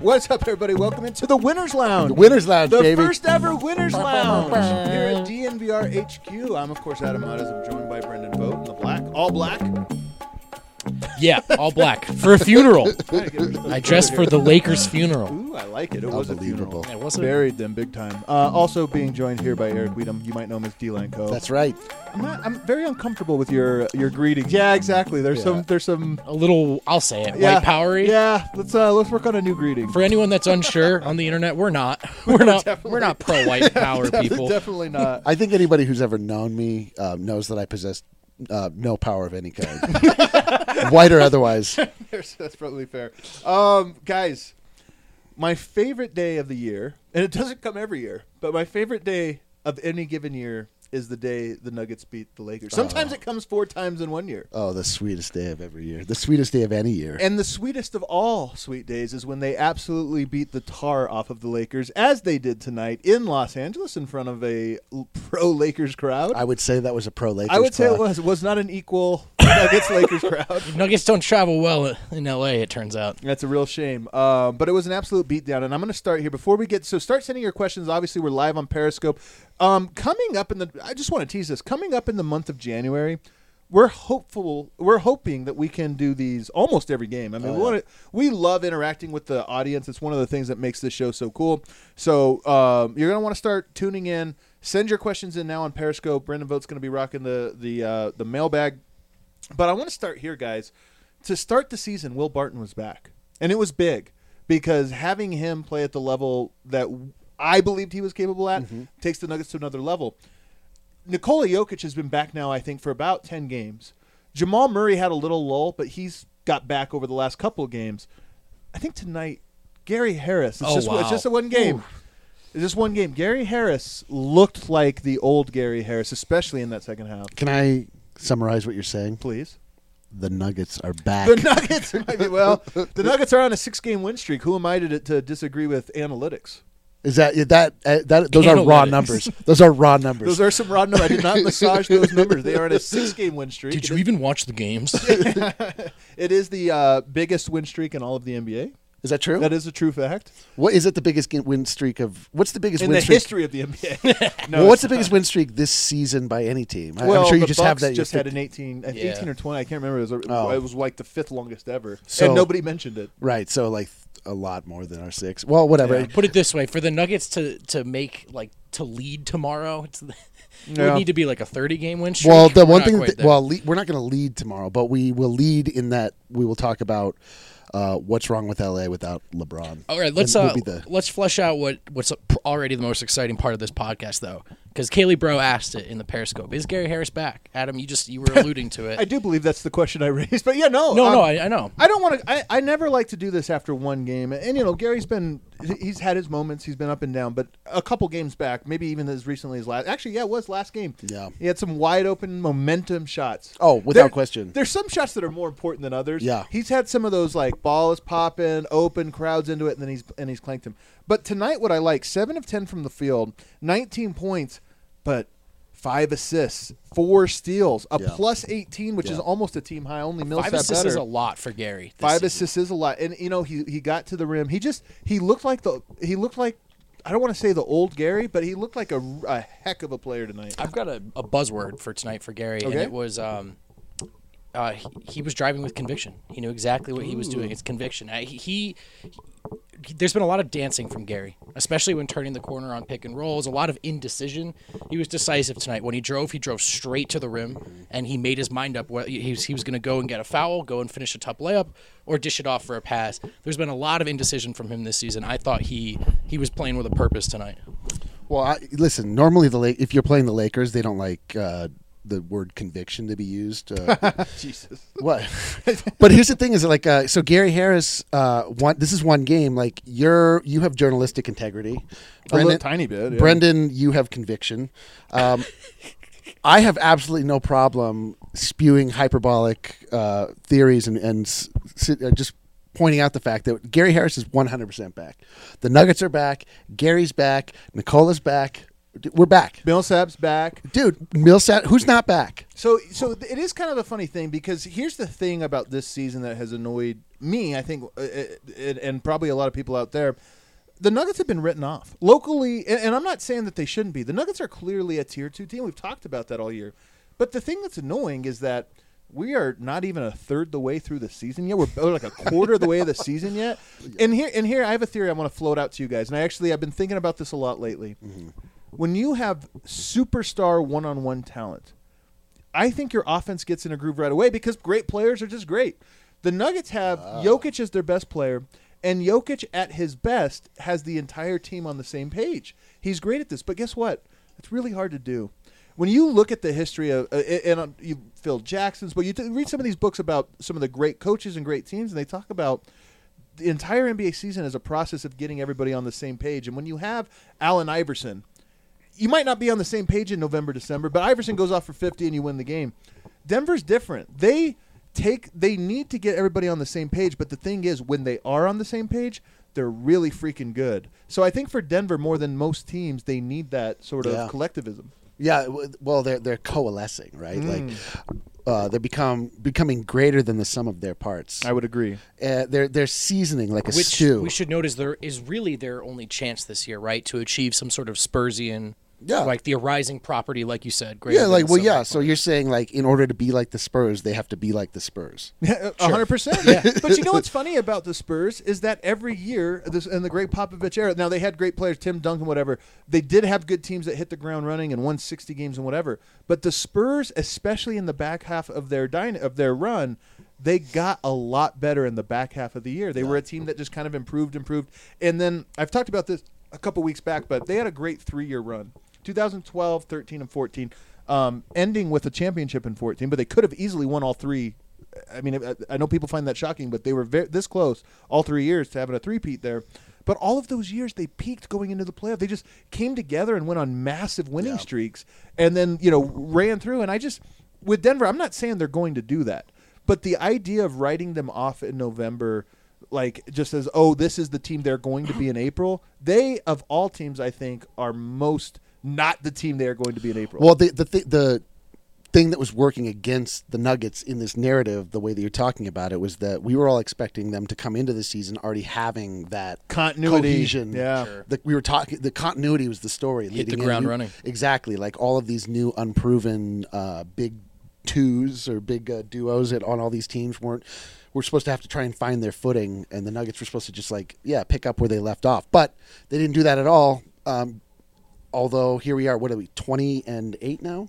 What's up, everybody? Welcome into the Winners Lounge. The Winners Lounge, the baby. First ever Winners Lounge here at DNVR HQ. I'm, of course, Adam Matas. I'm joined by Brendan Vogt in the black. All black? Yeah, all black. For a funeral. I dressed for the Lakers' funeral. Ooh, I like it. It was a funeral. Yeah, was it? Buried them big time. Also being joined here by Eric Weedham. You might know him as D-Line Co. That's right. I'm very uncomfortable with your greetings. Yeah, exactly. There's some A little, I'll say it, yeah, white powery. Yeah, let's work on a new greeting. For anyone that's unsure on the internet, we're not. We're not pro white power people. Definitely not. I think anybody who's ever known me knows that I possess no power of any kind, white or otherwise. That's probably fair. Guys, my favorite day of the year, and it doesn't come every year, but my favorite day of any given year is the day the Nuggets beat the Lakers. Sometimes it comes 4 times in 1 year. Oh, the sweetest day of every year. The sweetest day of any year. And the sweetest of all sweet days is when they absolutely beat the tar off of the Lakers, as they did tonight in Los Angeles in front of a pro-Lakers crowd. I would say that was a pro-Lakers I would say crowd. it was not an equal Nuggets-Lakers crowd. Nuggets don't travel well in L.A., it turns out. That's a real shame. But it was an absolute beatdown. And I'm going to start here. Before we get – so start sending your questions. Obviously, we're live on Periscope. Coming up I just want to tease this. Coming up in the month of January, we're hoping that we can do these almost every game. I mean, we love interacting with the audience. It's one of the things that makes this show so cool. So you're going to want to start tuning in. Send your questions in now on Periscope. Brendan Vogt's going to be rocking the mailbag. But I want to start here, guys. To start the season, Will Barton was back. And it was big because having him play at the level that I believed he was capable at takes the Nuggets to another level. Nikola Jokic has been back now, I think, for about 10 games. Jamal Murray had a little lull, but he's got back over the last couple of games. I think tonight, Gary Harris. It's just a one game. It's just one game. Gary Harris looked like the old Gary Harris, especially in that second half. Can I summarize what you're saying? Please. The Nuggets are back. The Nuggets, the Nuggets are on a 6-game win streak. Who am I to disagree with analytics? Is that those are raw numbers. Those are raw numbers. Those are some raw numbers. I did not massage those numbers. They are on a 6-game win streak. Did you even watch the games? It is the biggest win streak in all of the NBA. Is that true? That is a true fact. What is it? The biggest win streak of? What's the biggest in win the streak history of the NBA? No, well, what's the biggest win streak this season by any team? Well, I'm sure you the just Bucks have that. Just had an 18 or 20. I can't remember. It was like the 5th longest ever, and nobody mentioned it. Right. So like a lot more than our 6. Well, whatever. Put it this way: for the Nuggets to make to lead tomorrow, it would need to be like a 30-game win streak. Well, the one thing we're not going to lead tomorrow, but we will lead in that we will talk about what's wrong with LA without LeBron. All right, let's flesh out what's already the most exciting part of this podcast, though, because Kaylee Bro asked it in the Periscope: is Gary Harris back? Adam, you were alluding to it. I do believe that's the question I raised, but yeah, no, I know. I don't want to. I never like to do this after one game, and Gary's he's had his moments. He's been up and down, but a couple games back, maybe even as recently as last. Actually, yeah, it was last game. Yeah, he had some wide open momentum shots. Oh, without question. There's some shots that are more important than others. Yeah, he's had some of those like ball is popping, open, crowds into it, and then he's clanked him. But tonight, what I like: 7 of 10 from the field, 19 points, but 5 assists, 4 steals, a plus 18, which is almost a team high. Only Millsap 5 assists better. is a lot for Gary. 5 assists is a lot, and he got to the rim. He looked like I don't want to say the old Gary, but he looked like a heck of a player tonight. I've got a buzzword for tonight for Gary, and it was he was driving with conviction. He knew exactly what he was doing. It's conviction. There's been a lot of dancing from Gary, especially when turning the corner on pick and rolls. A lot of indecision. He was decisive tonight. When he drove straight to the rim, and he made his mind up. He was going to go and get a foul, go and finish a tough layup, or dish it off for a pass. There's been a lot of indecision from him this season. I thought he was playing with a purpose tonight. Well, listen. Normally, if you're playing the Lakers, they don't like the word conviction to be used. Jesus. What? But here's the thing: is like so Gary Harris. This is one game. Like you have journalistic integrity. Brendan, a little tiny bit. Yeah. Brendan, you have conviction. I have absolutely no problem spewing hyperbolic theories and just pointing out the fact that Gary Harris is 100% back. The Nuggets are back. Gary's back. Nicola's back. We're back. Millsap's back. Dude, Millsap, who's not back? So it is kind of a funny thing because here's the thing about this season that has annoyed me, I think, and probably a lot of people out there. The Nuggets have been written off locally, and I'm not saying that they shouldn't be. The Nuggets are clearly a Tier 2 team. We've talked about that all year. But the thing that's annoying is that we are not even a third the way through the season yet. We're like a quarter of the way of the season yet. And here I have a theory I want to float out to you guys. And I've been thinking about this a lot lately. Mm-hmm. When you have superstar one-on-one talent, I think your offense gets in a groove right away because great players are just great. The Nuggets have Jokic as their best player. And Jokic, at his best, has the entire team on the same page. He's great at this. But guess what? It's really hard to do. When you look at the history of you Phil Jackson's, but you read some of these books about some of the great coaches and great teams, and they talk about the entire NBA season as a process of getting everybody on the same page. And when you have Allen Iverson, you might not be on the same page in November, December, but Iverson goes off for 50 and you win the game. Denver's different. They need to get everybody on the same page, but the thing is, when they are on the same page, they're really freaking good. So I think for Denver, more than most teams, they need that sort of collectivism. Yeah, well, they're coalescing, right? Like they're becoming greater than the sum of their parts. I would agree. They're seasoning like a Which stew. we should note is really their only chance this year, right, to achieve some sort of Spursian. Like the arising property, like you said. So you're saying, like, in order to be like the Spurs, they have to be like the Spurs. 100%. Yeah. But you know what's funny about the Spurs is that every year, in the Greg Popovich era, now they had great players, Tim Duncan, whatever. They did have good teams that hit the ground running and won 60 games and whatever. But the Spurs, especially in the back half of their run, they got a lot better in the back half of the year. They were a team that just kind of improved. And then I've talked about this a couple weeks back, but they had a great 3-year run. 2012, 13, and 14, ending with a championship in 14, but they could have easily won all three. I mean, I know people find that shocking, but they were this close all 3 years to having a three-peat there. But all of those years, they peaked going into the playoff. They just came together and went on massive winning streaks and then, ran through. And with Denver, I'm not saying they're going to do that, but the idea of writing them off in November, like just as, this is the team they're going to be in April, they, of all teams, I think, are most not the team they are going to be in April. Well, the thing that was working against the Nuggets in this narrative, the way that you're talking about it, was that we were all expecting them to come into the season already having that continuity, cohesion. Yeah, sure. The continuity was the story. Hit the ground running. Exactly, like all of these new unproven big twos or big duos on all these teams were supposed to have to try and find their footing, and the Nuggets were supposed to just pick up where they left off, but they didn't do that at all. Although here we are, what are we, 20-8 now?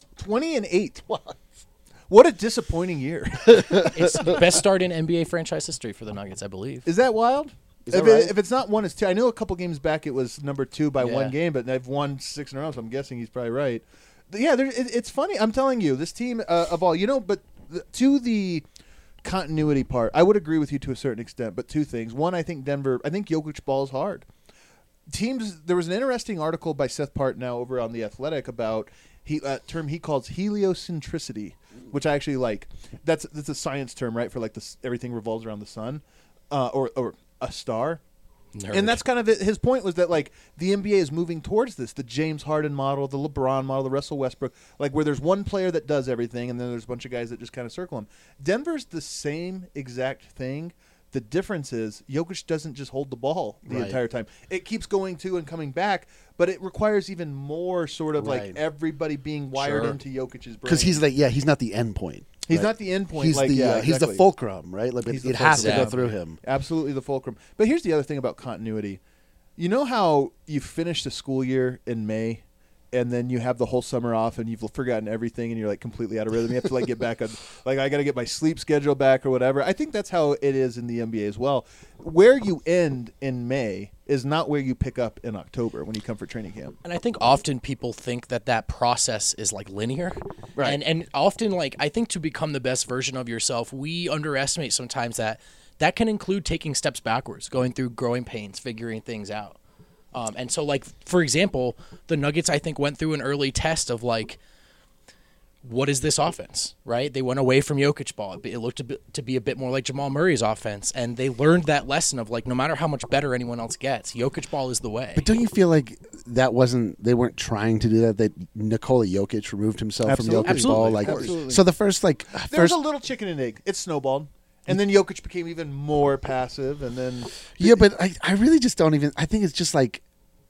20-8. What a disappointing year. It's the best start in NBA franchise history for the Nuggets, I believe. Is that wild? Right? If it's not 1, it's 2. I know a couple games back it was number 2 by one game, but they've won 6 in a row, so I'm guessing he's probably right. But yeah, it's funny. I'm telling you, this team of all, but to the continuity part, I would agree with you to a certain extent, but two things. One, I think Jokic balls hard. Teams. There was an interesting article by Seth Partnow over on The Athletic about term he calls heliocentricity, which I actually like. That's a science term, right? For everything revolves around the sun, or a star. Nerd. And that's kind of his point, was that the NBA is moving towards this, the James Harden model, the LeBron model, the Russell Westbrook, where there's one player that does everything and then there's a bunch of guys that just kind of circle him. Denver's the same exact thing. The difference is Jokic doesn't just hold the ball the entire time. It keeps going to and coming back, but it requires even more sort of everybody being wired into Jokic's brain. Because he's not the end point. He's not the end point. He's he's the fulcrum, right? It has to go through him. Absolutely the fulcrum. But here's the other thing about continuity. You know how you finish the school year in May, and then you have the whole summer off, and you've forgotten everything, and you're completely out of rhythm. You have to get back on. I got to get my sleep schedule back or whatever. I think that's how it is in the NBA as well. Where you end in May is not where you pick up in October when you come for training camp. And I think often people think that process is linear. Right. And often I think to become the best version of yourself, we underestimate sometimes that can include taking steps backwards, going through growing pains, figuring things out. And so, for example, the Nuggets, I think, went through an early test of, what is this offense, right? They went away from Jokic ball. It looked to be a bit more like Jamal Murray's offense, and they learned that lesson of, no matter how much better anyone else gets, Jokic ball is the way. But don't you feel like that wasn't. They weren't trying to do that. That Nikola Jokic removed himself Absolutely. from Jokic's ball. Like Absolutely. so, the first There was a little chicken and egg. It snowballed. And then Jokic became even more passive, and then yeah, but I really just don't even. I think it's just like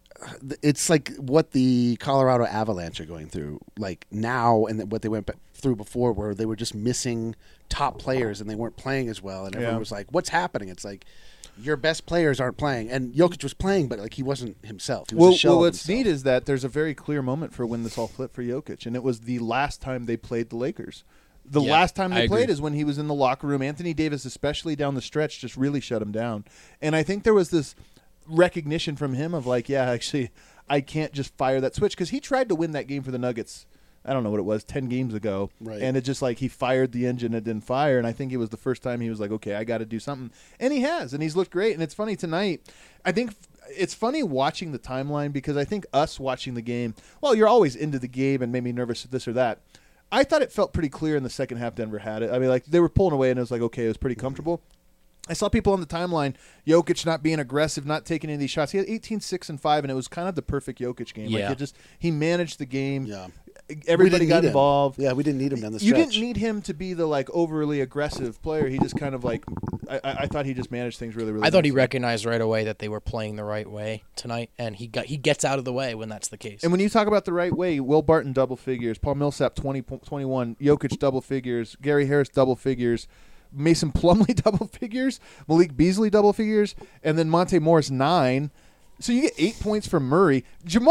it's like what the Colorado Avalanche are going through like now, and what they went through before, where they were just missing top players and they weren't playing as well, and everyone was like, "What's happening?" It's like your best players aren't playing, and Jokic was playing, but like he wasn't himself. He was a shell of what's himself. neat is that there's a very clear moment for when this all flipped for Jokic, and it was the last time they played the Lakers. The last time they played is when he was in the locker room. Anthony Davis, especially down the stretch, just really shut him down. And I think there was this recognition from him of like, yeah, actually, I can't just fire that switch, because he tried to win that game for the Nuggets. I don't know what it was, 10 games ago. Right. And it just like he fired the engine, it didn't fire. And I think it was the first time he was like, okay, I got to do something. And he has, and he's looked great. And it's funny tonight. I think it's funny watching the timeline, because I think us watching the game, well, you're always into the game and made me nervous this or that. I thought it felt pretty clear in the second half Denver had it. I mean, like they were pulling away, and it was like, okay, it was pretty comfortable. I saw people on the timeline, Jokic not being aggressive, not taking any of these shots. He had 18, 6, and 5, and it was kind of the perfect Jokic game. Yeah. Like he managed the game. Yeah. Everybody We didn't got need him. involved. Yeah, we didn't need him down the You stretch. didn't need him to be the like overly aggressive player. He just kind of like I thought he just managed things really, really. I thought he nicely. recognized right away that they were playing the right way tonight, and he gets out of the way when that's the case. And when you talk about the right way, Will Barton double figures, Paul Millsap 21, Jokic double figures, Gary Harris double figures, Mason Plumlee double figures, Malik Beasley double figures, and then Monte Morris 9. So you get 8 points from Murray,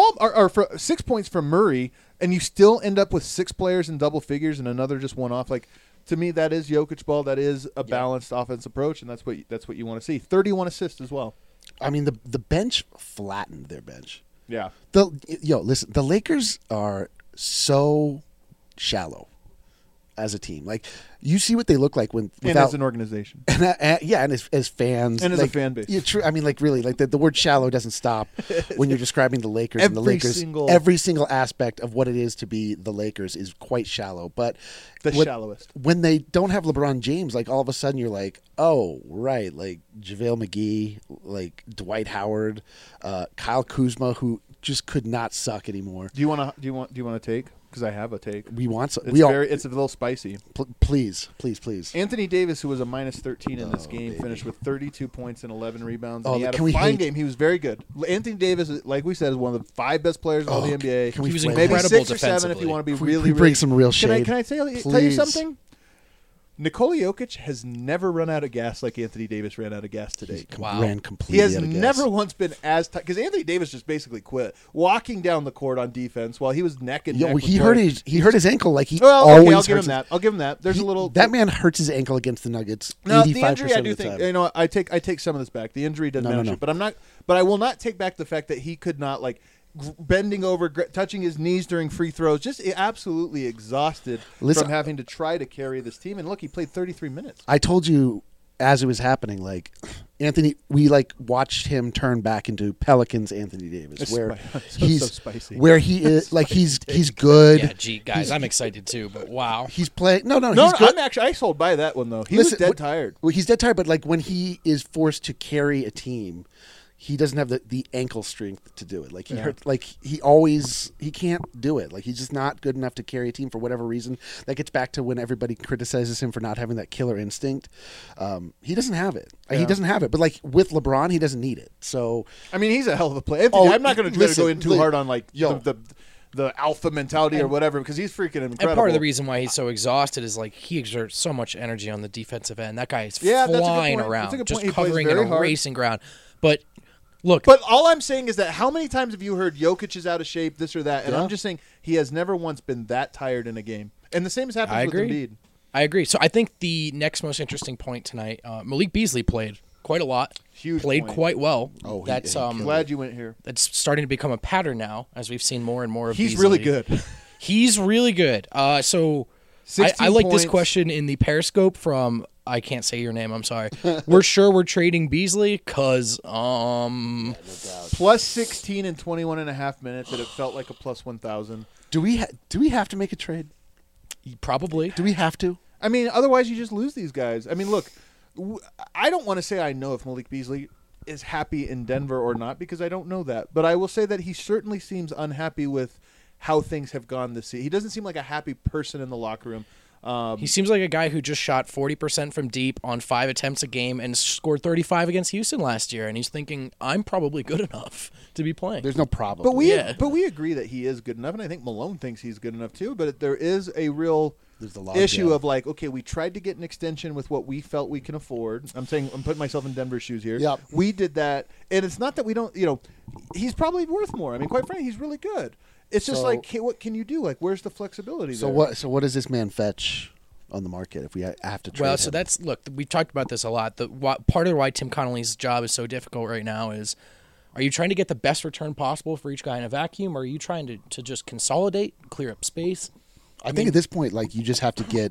or for 6 points from Murray, and you still end up with 6 players in double figures and another just one off. Like to me, that is Jokic ball. That is a balanced offense approach, and that's what you want to see. 31 assists as well. I mean, the bench flattened their bench. Yeah. Listen, the Lakers are so shallow as a team. Like, you see what they look like And without as an organization. and as fans And as a like, fan base. Yeah, true. I mean, like really, like the word "shallow" doesn't stop when you're describing the Lakers and the Lakers. Every single aspect of what it is to be the Lakers is quite shallow. But Shallowest. when they don't have LeBron James, like all of a sudden you're like, oh right, like JaVale McGee, like Dwight Howard, Kyle Kuzma, who just could not suck anymore. Do you want to take? Because I have a take. We want some. It's a little spicy. Please. Anthony Davis, who was a minus 13 in this game, baby. finished with 32 points and 11 rebounds. Oh, And he had can a we fine hate- game. He was very good. Anthony Davis, like we said, is one of the 5 best players in all the NBA. can we He was flame Maybe him? incredible 6 or 7 if defensively. you want to be Can really, we bring some real shade? Can I tell you Please. something? Nikola Jokic has never run out of gas like Anthony Davis ran out of gas today. Wow. Ran He completely has out of gas. never once been as tight, because Anthony Davis just basically quit walking down the court on defense while he was neck and Yo, neck. with he Blake. hurt his ankle like he Well, always okay, I'll give him hurts that. I'll give him that. There's a little that man hurts his ankle against the Nuggets. No, 85% the injury I of do the think time. I take some of this back. The injury doesn't No, matter, no. but I'm not. But I will not take back the fact that he could not bending over, touching his knees during free throws, just absolutely exhausted Listen, from having to try to carry this team. And look, he played 33 minutes. I told you as it was happening, like Anthony, we watched him turn back into Pelicans Anthony Davis, It's where so he's spicy. where he is like he's good. Yeah, gee, guys, I'm excited too, but wow. He's playing. No, No, he's good. I sold by that one though. He Listen, was dead what- tired. Well, he's dead tired, but like when he is forced to carry a team, he doesn't have the ankle strength to do it. Like he can't do it. Like he's just not good enough to carry a team for whatever reason. That gets back to when everybody criticizes him for not having that killer instinct. He doesn't have it. He doesn't have it. But like with LeBron, he doesn't need it. So I mean, he's a hell of a player. Anthony, Oh, I'm not going to listen, go in too hard on yo. the alpha mentality or whatever, because he's freaking incredible. And part of the reason why he's so exhausted is like he exerts so much energy on the defensive end. That guy is Yeah, that's a good flying point. around, That's a good just point. He plays covering very and hard. erasing ground. But look, But all I'm saying is that how many times have you heard Jokic is out of shape, this or that? And Yeah. I'm just saying he has never once been that tired in a game. And the same has happened I with agree. Embiid. I agree. So I think the next most interesting point tonight, Malik Beasley played quite a lot. Huge Played point. quite well. Oh, he- that's he killed Glad you went here. that's starting to become a pattern now, as we've seen more and more of. He's Beasley. really good. He's really good. So 16 I like this points. question in the Periscope from I can't say your name. I'm sorry. We're sure we're trading Beasley because Plus 16 in 21 and a half minutes, and it felt like a plus 1,000. do we have to make a trade? probably. Do we have to? I mean, otherwise you just lose these guys. I mean, look, I don't want to say I know if Malik Beasley is happy in Denver or not, because I don't know that. But I will say that he certainly seems unhappy with how things have gone this season. He doesn't seem like a happy person in the locker room. He seems like a guy who just shot 40% from deep on 5 attempts a game and scored 35 against Houston last year, and he's thinking, I'm probably good enough to be playing. There's no problem. But we agree that he is good enough, and I think Malone thinks he's good enough too. But there is a real issue of like, okay, we tried to get an extension with what we felt we can afford. I'm putting myself in Denver's shoes here. Yep. We did that, and it's not that we don't. He's probably worth more. I mean, quite frankly, he's really good. It's just like, hey, what can you do? Like, where's the flexibility there? So what does this man fetch on the market if we have to trade him? So that's, look, we've talked about this a lot. Part of why Tim Connolly's job is so difficult right now is, are you trying to get the best return possible for each guy in a vacuum, or are you trying to just consolidate, clear up space? I think at this point, like, you just have to get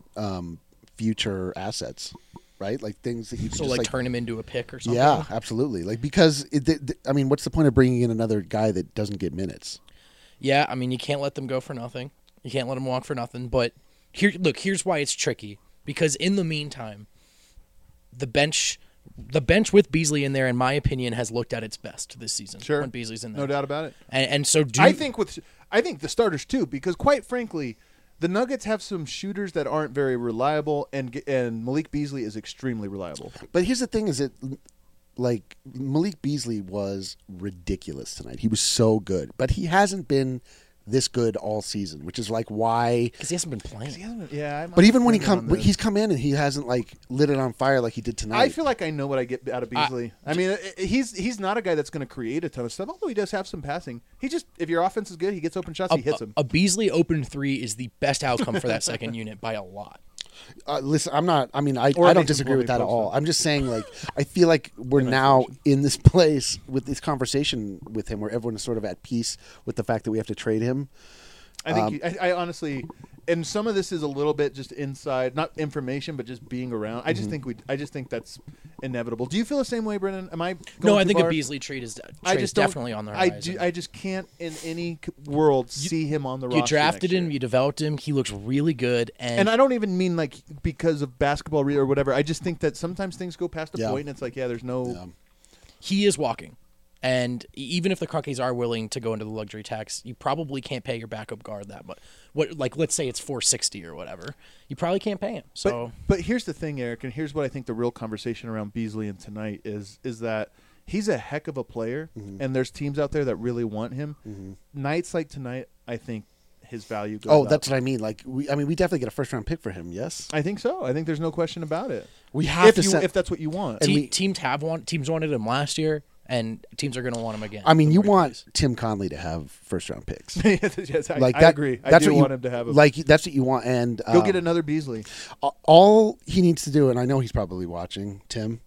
future assets, right? Like things that you can just turn him into a pick or something? Yeah, absolutely. Like, because, what's the point of bringing in another guy that doesn't get minutes? Yeah, I mean, you can't let them go for nothing. You can't let them walk for nothing. But here's why it's tricky. Because in the meantime, the bench with Beasley in there, in my opinion, has looked at its best this season. Sure, when Beasley's in there, no doubt about it. And so I think the starters too, because quite frankly, the Nuggets have some shooters that aren't very reliable, and Malik Beasley is extremely reliable. But here's the thing: is it like Malik Beasley was ridiculous tonight? He was so good, but he hasn't been this good all season, which is like why, because he hasn't been playing. But even when he's come in and he hasn't like lit it on fire like he did tonight. I feel like I know what I get out of Beasley. I mean, he's not a guy that's going to create a ton of stuff, although he does have some passing. He just, if your offense is good, he gets open shots, he hits them. A Beasley open three is the best outcome for that second unit by a lot. Listen, I don't disagree with that at all. I'm just saying, like, I feel like we're now in this place with this conversation with him where everyone is sort of at peace with the fact that we have to trade him. I think I honestly, and some of this is a little bit just inside, not information, but just being around. I just think that's inevitable. Do you feel the same way, Brennan? Am I going No, I think far? A Beasley trade is definitely on the horizon. I just can't in any world see him on the roster. You drafted him, you developed him. He looks really good, and I don't even mean like because of basketball or whatever. I just think that sometimes things go past a point, and it's like, there's no. Yeah. He is walking. And even if the Crockies are willing to go into the luxury tax, you probably can't pay your backup guard that much. Let's say it's $460 or whatever. You probably can't pay him. So, but here's the thing, Eric, and here's what I think the real conversation around Beasley and tonight is that he's a heck of a player, and there's teams out there that really want him. Nights like tonight, I think his value goes up. That's what I mean. Like, we definitely get a first-round pick for him, yes? I think so. I think there's no question about it. We have if that's what you want. Teams wanted him last year. And teams are going to want him again. I mean, you want Tim Conley to have first-round picks. Yes, I agree. I do want him to have him. Like, that's what you want. And go get another Beasley. All he needs to do, and I know he's probably watching, Tim,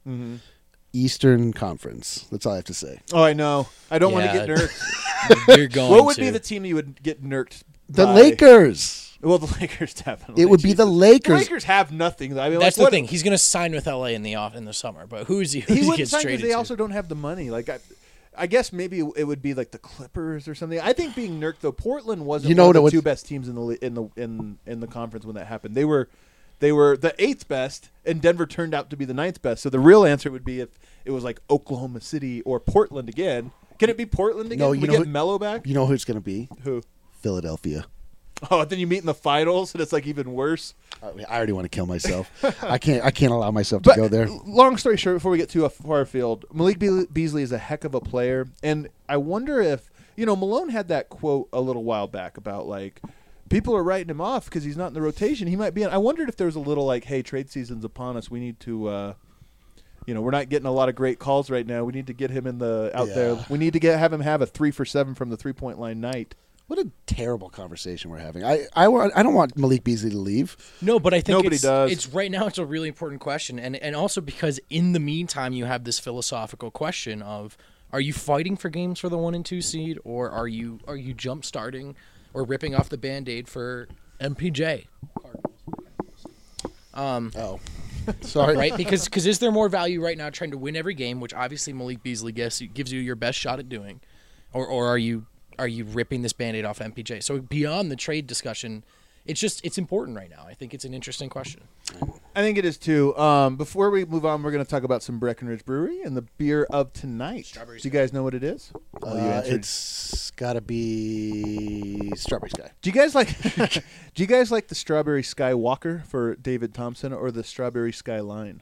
Eastern Conference. That's all I have to say. Oh, I know. I don't want to get nerked. You're going What would be the team you would get nerked The by? Lakers. Well, the Lakers definitely. It would be the Lakers. The Lakers have nothing. I mean, that's the thing. He's going to sign with LA in the summer, but who is he? He wouldn't gets sign traded because they to? also don't have the money. Like I guess maybe it would be like the Clippers or something. I think being nerked though, Portland wasn't one of the two best teams in the conference when that happened. They were the 8th best, and Denver turned out to be the 9th best. So the real answer would be if it was like Oklahoma City or Portland again. Can it be Portland again? No, we get Melo back. You know who it's going to be? Who? Philadelphia. Oh, then you meet in the finals, and it's like even worse. I already want to kill myself. I can't allow myself to go there. Long story short, before we get too far afield, Malik Beasley is a heck of a player, and I wonder if Malone had that quote a little while back about like people are writing him off because he's not in the rotation. He might be in. I wondered if there was a little like, hey, trade season's upon us. We need to. We're not getting a lot of great calls right now. We need to get him out there. We need to have him have a 3 for 7 from the 3-point line night. What a terrible conversation we're having. I don't want Malik Beasley to leave. No, but I think nobody does. It's right now. It's a really important question, and also because in the meantime you have this philosophical question of: are you fighting for games for the 1 and 2 seed, or are you jump starting or ripping off the Band-Aid for MPJ? Sorry. Right? Because is there more value right now trying to win every game, which obviously Malik Beasley gives you your best shot at doing, or are you ripping this Band-Aid off MPJ? So beyond the trade discussion, it's important right now. I think it's an interesting question. I think it is too. Before we move on, we're going to talk about some Breckenridge Brewery and the beer of tonight. Do you guys know what it is? It's got to be Strawberry Sky. Do you guys like? Do you guys like the Strawberry Sky Walker for David Thompson or the Strawberry Sky Line?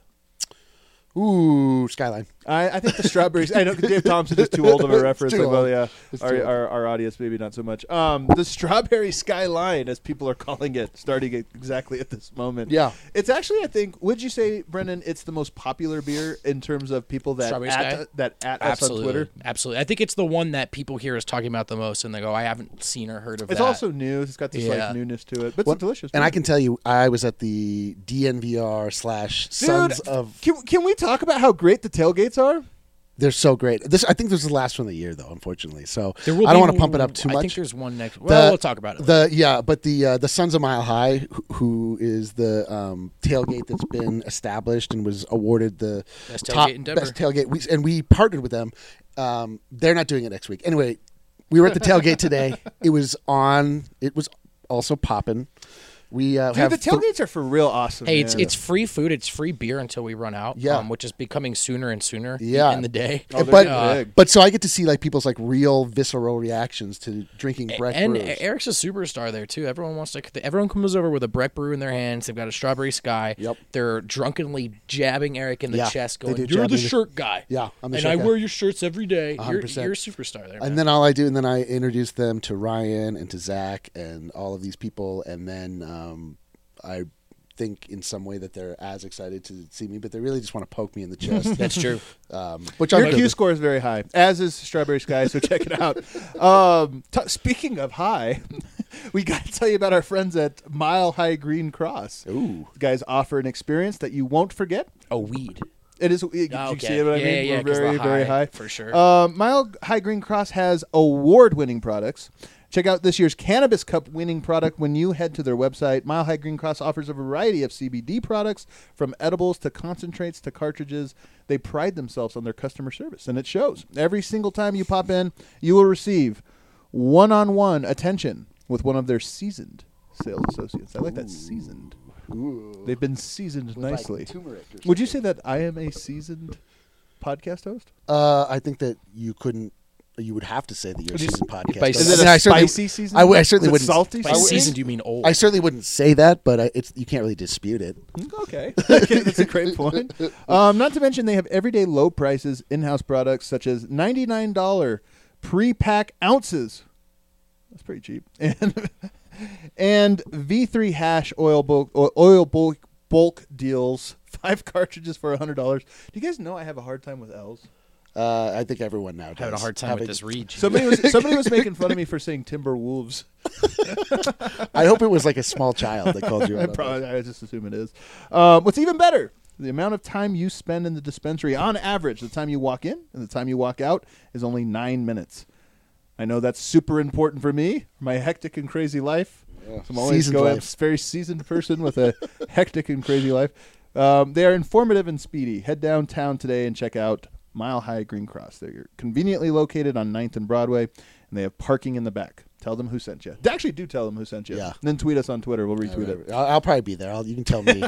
Ooh, Skyline. I think the strawberries. I know Dave Thompson is too old of a reference. Too Like, well, old. yeah, It's too old. our audience maybe not so much. The Strawberry Skyline, as people are calling it, starting exactly at this moment. Yeah. It's actually, I think, would you say, Brendan, it's the most popular beer in terms of people that Strawberry Sky? at us on Twitter? Absolutely. I think it's the one that people hear us talking about the most, and they go, I haven't seen or heard of It's that. also new. It's got this Yeah. like newness to it, but Well, it's delicious. And beer. I can tell you, I was at the DNVR / Sons of. Can we talk about how great the tailgates are? They're so great. I think this is the last one of the year, though. Unfortunately, so There will I don't be- want to pump it up too much. I think there's one next. Well, we'll talk about it. later. But the Sons of Mile High, who is the tailgate that's been established and was awarded the Best top tailgate in Denver. best tailgate. We partnered with them. They're not doing it next week. Anyway, we were at the tailgate today. It was on. It was also popping. We Dude, have the tailgates are for real awesome. Hey, man. it's free food. It's free beer until we run out. Yeah. Which is becoming sooner and sooner. Yeah. In the day. Oh, they're but getting big. but so I get to see like people's like real visceral reactions to drinking Breck And brews. Eric's a superstar there too. Everyone comes over with a Breck brew in their hands. They've got a Strawberry Sky. Yep. They're drunkenly jabbing Eric in the Yeah, chest, they going, do "You're jab the me. shirt guy." Yeah, I'm the and shirt I guy. wear your shirts every day. You're 100%. a superstar there. Man. And then all I do, and then I introduce them to Ryan and to Zach and all of these people, and then I think in some way that they're as excited to see me, but they really just want to poke me in the chest. That's true. Which I'm Your good Q with. score is very high, as is Strawberry Sky, so check it out. Speaking of high, we got to tell you about our friends at Mile High Green Cross. Ooh. You guys offer an experience that you won't forget. A weed. It is. Did you Okay. see what I mean? Yeah, We're 'cause the very, very high, high. for sure. Mile High Green Cross has award-winning products. Check out this year's Cannabis Cup winning product when you head to their website. Mile High Green Cross offers a variety of CBD products, from edibles to concentrates to cartridges. They pride themselves on their customer service, and it shows. Every single time you pop in, you will receive one-on-one attention with one of their seasoned sales associates. I like that, seasoned. Ooh. They've been seasoned With, like, nicely. turmeric or Would you say something. that I am a seasoned podcast host? I think that you couldn't. You would have to say that you're a Would you seasoned podcast. by host. Is it I mean, a I certainly- spicy season? I certainly Is it wouldn't. salty? By seasoning? seasoned, you mean old. I certainly wouldn't say that, but you can't really dispute it. Okay. Okay, that's a great point. Not to mention they have everyday low prices, in-house products such as $99 pre-pack ounces. That's pretty cheap. And V3 hash oil bulk deals, 5 cartridges for $100. Do you guys know I have a hard time with L's? I think everyone now does. having a hard time Having- with this read. Somebody was making fun of me for saying Timberwolves. I hope it was like a small child that called you. out on that. I just assume it is. What's even better, the amount of time you spend in the dispensary, on average, the time you walk in and the time you walk out is only 9 minutes. I know that's super important for me, my hectic and crazy life. Yeah. So I'm always Seasoned a life. very seasoned person with a hectic and crazy life. They are informative and speedy. Head downtown today and check out Mile High Green Cross. They're conveniently located on 9th and Broadway, and they have parking in the back. Tell them who sent you. Actually, do tell them who sent you. Yeah. And then tweet us on Twitter. We'll retweet it. I'll probably be there. You can tell me.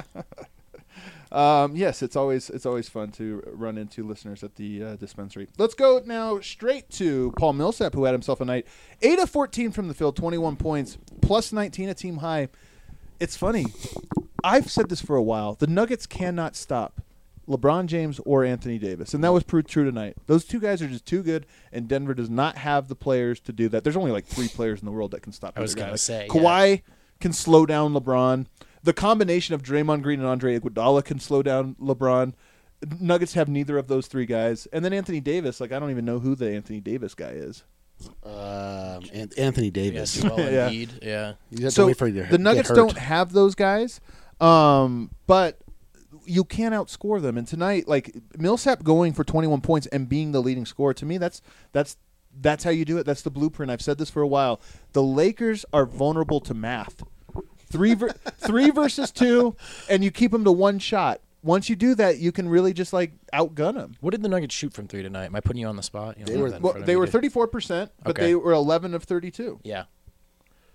Yes, it's always fun to run into listeners at the dispensary. Let's go now straight to Paul Millsap, who had himself a night. 8 of 14 from the field, 21 points, plus 19 a team high. It's funny. I've said this for a while. The Nuggets cannot stop LeBron James or Anthony Davis, and that was proved true tonight. Those two guys are just too good, and Denver does not have the players to do that. There's only like 3 players in the world that can stop. I was either guy. gonna say, Kawhi can slow down LeBron. The combination of Draymond Green and Andre Iguodala can slow down LeBron. Nuggets have neither of those 3 guys, and then Anthony Davis. Like I don't even know who the Anthony Davis guy is. Anthony Davis. Yes, well, Yeah. indeed. Yeah. You have to So wait for you to the get Nuggets hurt. don't have those guys, but you can't outscore them. And tonight, like Millsap going for 21 points and being the leading scorer, to me, that's how you do it. That's the blueprint. I've said this for a while. The Lakers are vulnerable to math. 3 versus 2, and you keep them to 1 shot. Once you do that, you can really just like outgun them. What did the Nuggets shoot from 3 tonight? Am I putting you on the spot? You don't They have were- that in Well, front of they you, were do you? 34%, but Okay. they were 11 of 32. Yeah.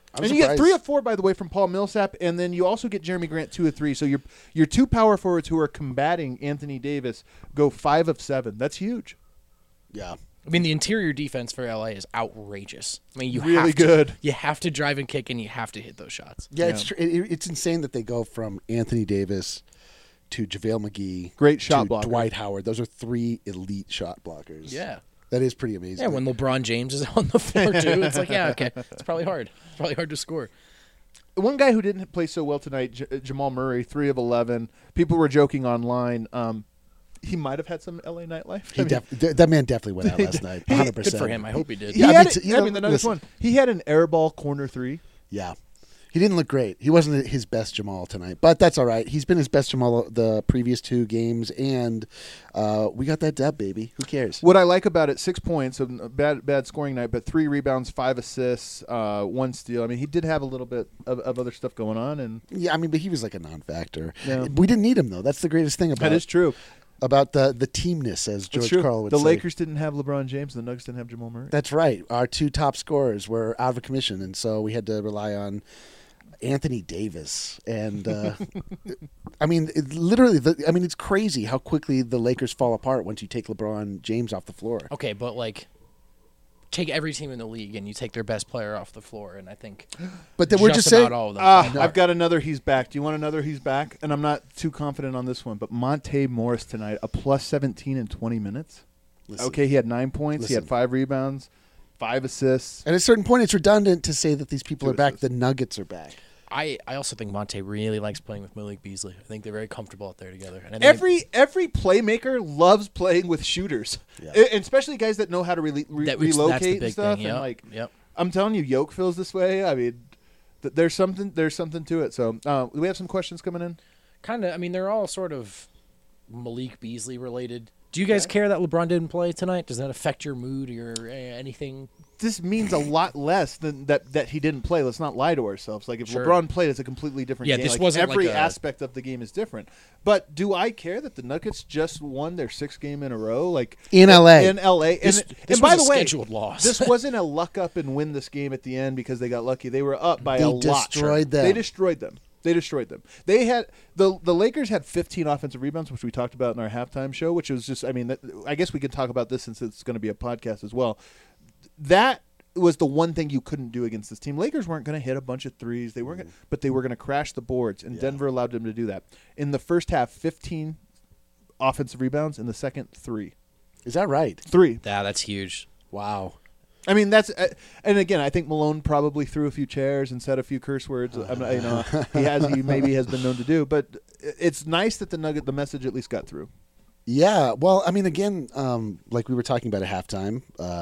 And you get 3 of 4, by the way, from Paul Millsap, and then you also get Jeremy Grant 2 of 3. So your 2 power forwards who are combating Anthony Davis go 5 of 7. That's huge. Yeah. I mean, the interior defense for LA is outrageous. I mean, you have to drive and kick, and you have to hit those shots. Yeah, it's insane that they go from Anthony Davis to JaVale McGee, great shot to blocker, Dwight Howard. Those are 3 elite shot blockers. Yeah. That is pretty amazing. Yeah, when LeBron James is on the floor, too, it's like, yeah, okay. It's probably hard. It's probably hard to score. One guy who didn't play so well tonight, Jamal Murray, 3 of 11. People were joking online. He might have had some LA nightlife. That man definitely went out last night, 100%. Good for him. I hope he did. The Nuggets won. He had an airball corner 3. Yeah. He didn't look great. He wasn't his best Jamal tonight, but that's all right. He's been his best Jamal the previous 2 games, and we got that dub, baby. Who cares? What I like about it, 6 points, a bad scoring night, but 3 rebounds, 5 assists, 1 steal. I mean, he did have a little bit of other stuff going on. And yeah, I mean, but he was like a non-factor. Yeah. We didn't need him, though. That's the greatest thing about it. That is true. About the teamness, as George Karl would say. The Lakers didn't have LeBron James, and the Nuggets didn't have Jamal Murray. That's right. Our 2 top scorers were out of commission, and so we had to rely on Anthony Davis. And, I mean, it's crazy how quickly the Lakers fall apart once you take LeBron James off the floor. Okay, but, like, take every team in the league and you take their best player off the floor, and I think but then we're just saying, all of them. I've got another he's back. Do you want another he's back? And I'm not too confident on this one, but Monte Morris tonight, a plus 17 in 20 minutes. Okay, he had 9 points. He had 5 rebounds, 5 assists. At a certain point, it's redundant to say that these people are back. The Nuggets are back. I also think Monte really likes playing with Malik Beasley. I think they're very comfortable out there together. And every playmaker loves playing with shooters, and especially guys that know how to relocate and stuff. Thing, and I'm telling you, Yoke feels this way. I mean, there's something to it. So do we have some questions coming in? Kind of. I mean, they're all sort of Malik Beasley related. Do you guys care that LeBron didn't play tonight? Does that affect your mood or anything? This means a lot less than that he didn't play. Let's not lie to ourselves. Like if LeBron played, it's a completely different game. This wasn't every aspect of the game is different. But do I care that the Nuggets just won their 6th game in a row? Like in LA. In LA. This by was the way, scheduled loss. This wasn't a luck up and win this game at the end because they got lucky. They were up by a lot. They destroyed them. They had the Lakers had 15 offensive rebounds, which we talked about in our halftime show, which was just, I mean, I guess we could talk about this since it's going to be a podcast as well. That was the one thing you couldn't do against this team. Lakers weren't going to hit a bunch of threes. They weren't, but they were going to crash the boards, and Denver allowed them to do that. In the first half, 15 offensive rebounds. In the second, 3. Is that right? 3. Yeah, that's huge. Wow. I mean, that's and again, I think Malone probably threw a few chairs and said a few curse words. He maybe has been known to do, but it's nice that the message at least got through. Yeah, well, I mean, again, like we were talking about at halftime,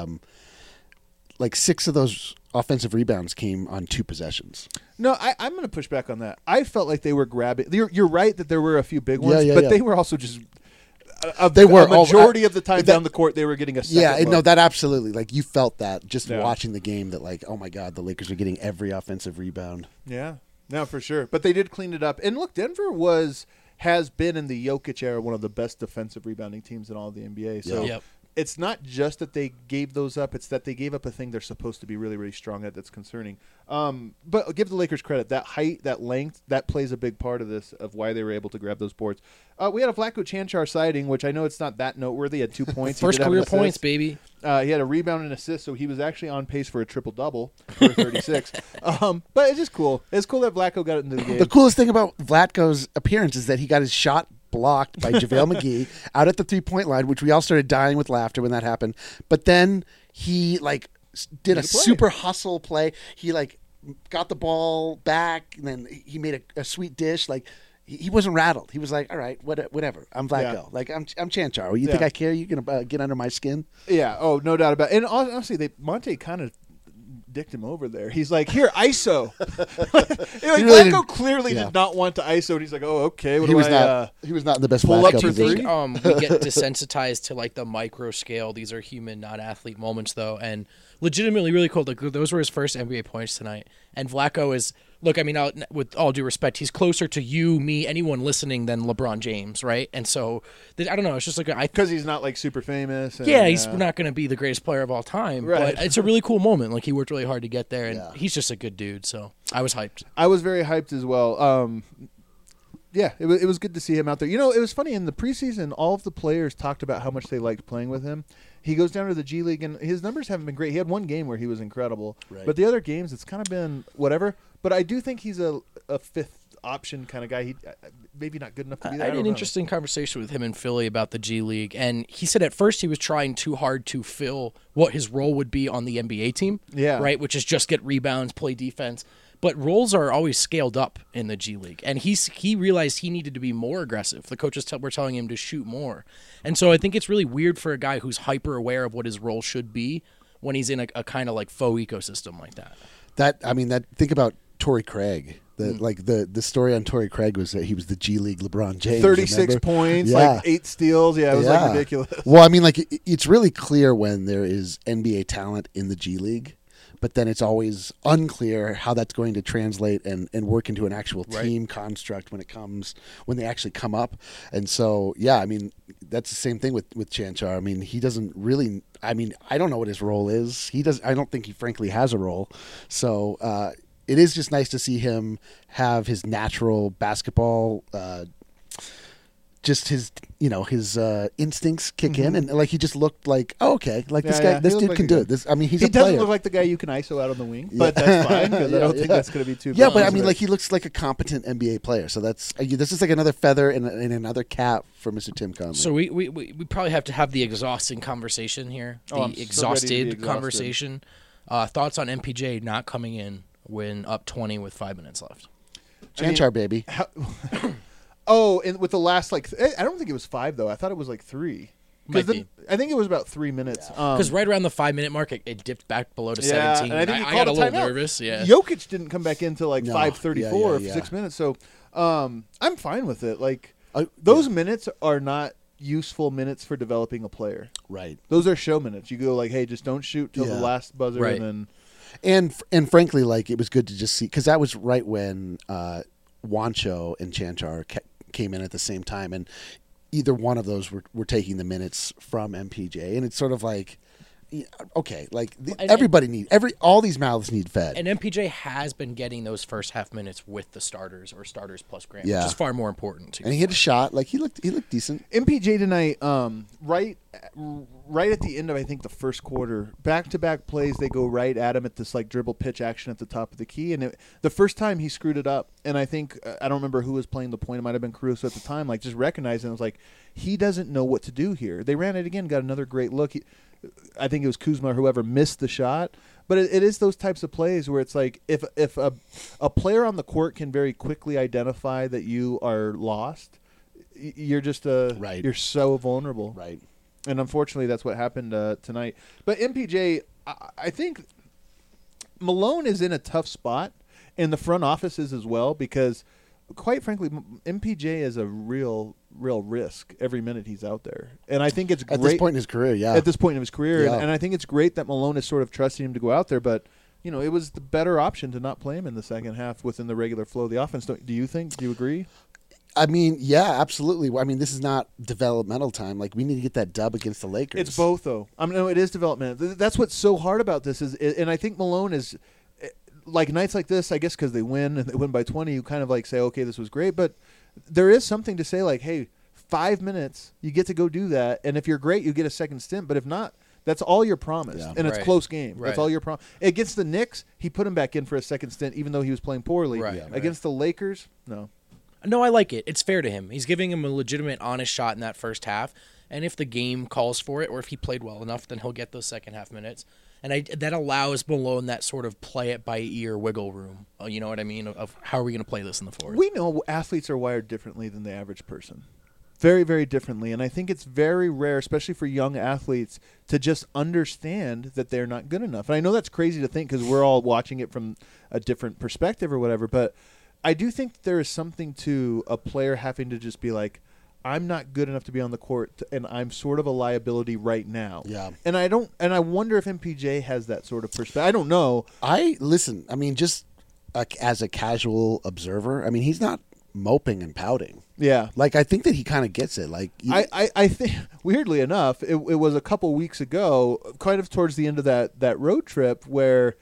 like 6 of those offensive rebounds came on 2 possessions. No, I'm going to push back on that. I felt like they were grabbing. You're right that there were a few big ones, but they were also just. A majority of the time down the court, they were getting a second look. That absolutely. Like, you felt that just watching the game that, like, oh, my God, the Lakers are getting every offensive rebound. Yeah, no, for sure. But they did clean it up. And, look, Denver has been in the Jokic era one of the best defensive rebounding teams in all of the NBA. So it's not just that they gave those up. It's that they gave up a thing they're supposed to be really, really strong at that's concerning. But give the Lakers credit. That height, that length, that plays a big part of this, of why they were able to grab those boards. We had a Vlatko Cancar sighting, which I know it's not that noteworthy. He had 2 points. First career points, baby. He had a rebound and assist, so he was actually on pace for a triple-double for 36. But it's just cool. It's cool that Vlatko got into the game. The coolest thing about Vlatko's appearance is that he got his shot blocked by JaVale McGee out at the 3-point line, which we all started dying with laughter when that happened. But then he did a super hustle play. He got the ball back, and then he made a sweet dish. He wasn't rattled. He was like, all right, whatever. I'm Vlatko. Yeah. I'm Cancharo. You think I care? You gonna get under my skin? Yeah. Oh, no doubt about it. And honestly, Monte kind of dicked him over there. He's like, here, ISO. Vlatko clearly did not want to ISO. And he's like, oh, okay. He was not in the best pull up position. three. We get desensitized to the micro scale. These are human, not athlete moments, though, and legitimately really cool. Those were his first NBA points tonight. And Vlatko is Look, I mean, with all due respect, he's closer to you, me, anyone listening than LeBron James, right? And so, I don't know. It's just like because he's not like super famous. And, he's not going to be the greatest player of all time, right. But it's a really cool moment. Like he worked really hard to get there, and he's just a good dude. So I was hyped. I was very hyped as well. Yeah, it was good to see him out there. You know, it was funny in the preseason. All of the players talked about how much they liked playing with him. He goes down to the G League, and his numbers haven't been great. He had one game where he was incredible, but the other games it's kind of been whatever. But I do think he's a fifth option kind of guy. He maybe not good enough to be there. I had an interesting conversation with him in Philly about the G League, and he said at first he was trying too hard to fill what his role would be on the NBA team. Yeah, right, which is just get rebounds, play defense. But roles are always scaled up in the G League, and he realized he needed to be more aggressive. The coaches were telling him to shoot more, and so I think it's really weird for a guy who's hyper aware of what his role should be when he's in a kind of like faux ecosystem like that. Think about Torrey Craig. The story on Torrey Craig was that he was the G League LeBron James. 36 points, like 8 steals. Yeah, it was like ridiculous. Well, I mean, like it's really clear when there is NBA talent in the G League. But then it's always unclear how that's going to translate and work into an actual team construct when they actually come up. And so, yeah, I mean, that's the same thing with Chanchar. I mean, he doesn't really. I mean, I don't know what his role is. I don't think he frankly has a role. So it is just nice to see him have his natural basketball. Just his instincts kick in, and like he just looked like, this dude can do it. He's a player. He doesn't look like the guy you can ISO out on the wing, but that's fine because I don't think that's going to be too. Yeah, but I mean, like he looks like a competent NBA player. So this is like another feather in another cap for Mr. Tim Conley. So we probably have to have the exhausting conversation here, exhausted conversation. Thoughts on MPJ not coming in when up 20 with 5 minutes left? Chanchar, baby. Oh, and with the last I don't think it was 5 though. I thought it was like 3. I think it was about 3 minutes. Because right around the 5 minute mark, it dipped back below to 17. And I got a little nervous. Yeah, Jokic didn't come back into 5:34 for 6 minutes. So I'm fine with it. Like those minutes are not useful minutes for developing a player. Right. Those are show minutes. You go like, hey, just don't shoot till the last buzzer, and then. And frankly, like it was good to just see because that was right when Juancho and Chanchar came in at the same time, and either one of those were taking the minutes from MPJ, and it's sort of like, okay, like all these mouths need fed. And MPJ has been getting those first half minutes with the starters or starters plus Grant, which is far more important. And he hit a shot, like he looked decent. MPJ tonight, right at the end of I think the first quarter, back-to-back plays, they go right at him at this like dribble pitch action at the top of the key, and the first time he screwed it up, and I think I don't remember who was playing the point. It might have been Caruso at the time. Like just recognizing, it was like he doesn't know what to do here. They ran it again, got another great look. I think it was Kuzma or whoever missed the shot, but it is those types of plays where it's like if a player on the court can very quickly identify that you are lost, you're just you're so vulnerable, right? And unfortunately, that's what happened tonight. But MPJ, I think Malone is in a tough spot, and the front office is as well, because, quite frankly, MPJ is a real risk every minute he's out there. And I think it's great. At this point in his career, yeah. At this point in his career. And I think it's great that Malone is sort of trusting him to go out there, but it was the better option to not play him in the second half within the regular flow of the offense. Do you think? Do you agree? I mean, yeah, absolutely. I mean, this is not developmental time. Like, we need to get that dub against the Lakers. It's both, though. I mean, no, it is developmental. That's what's so hard about this and I think Malone is, like nights like this, I guess because they win and they win by 20, you kind of like say, okay, this was great. But there is something to say like, hey, 5 minutes, you get to go do that. And if you're great, you get a second stint. But if not, that's all you're promised. Yeah. And it's close game. Right. That's all you're promised. Against the Knicks, he put him back in for a second stint, even though he was playing poorly. Right. Against the Lakers, no. No, I like it. It's fair to him. He's giving him a legitimate, honest shot in that first half. And if the game calls for it, or if he played well enough, then he'll get those second half minutes. And that allows Malone that sort of play it by ear wiggle room. You know what I mean? Of how are we going to play this in the fourth? We know athletes are wired differently than the average person. Very, very differently. And I think it's very rare, especially for young athletes, to just understand that they're not good enough. And I know that's crazy to think because we're all watching it from a different perspective or whatever, but I do think there is something to a player having to just be like, I'm not good enough to be on the court, and I'm sort of a liability right now. Yeah. And I wonder if MPJ has that sort of perspective. I don't know. I mean, just as a casual observer, I mean, he's not moping and pouting. Yeah. Like, I think that he kind of gets it. Like, I think, weirdly enough, it was a couple weeks ago, kind of towards the end of that road trip, where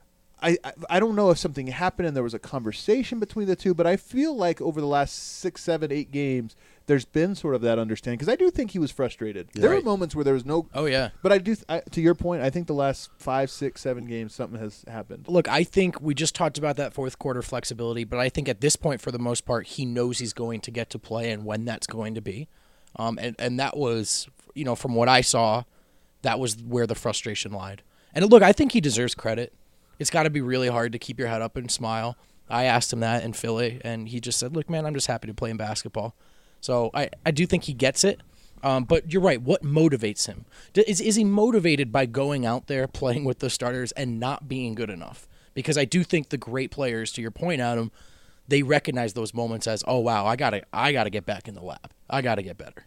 I don't know if something happened and there was a conversation between the two, but I feel like over the last 6, 7, 8 games, there's been sort of that understanding, because I do think he was frustrated. Yeah. There were moments where there was no. Oh yeah. But I do, to your point, I think the last 5, 6, 7 games, something has happened. Look, I think we just talked about that fourth quarter flexibility, but I think at this point, for the most part, he knows he's going to get to play and when that's going to be. And that was, from what I saw, that was where the frustration lied. And look, I think he deserves credit. It's got to be really hard to keep your head up and smile. I asked him that in Philly, and he just said, look, man, I'm just happy to play in basketball. So I do think he gets it. But you're right. What motivates him? Is he motivated by going out there, playing with the starters, and not being good enough? Because I do think the great players, to your point, Adam, they recognize those moments as, oh, wow, I gotta get back in the lab. I got to get better.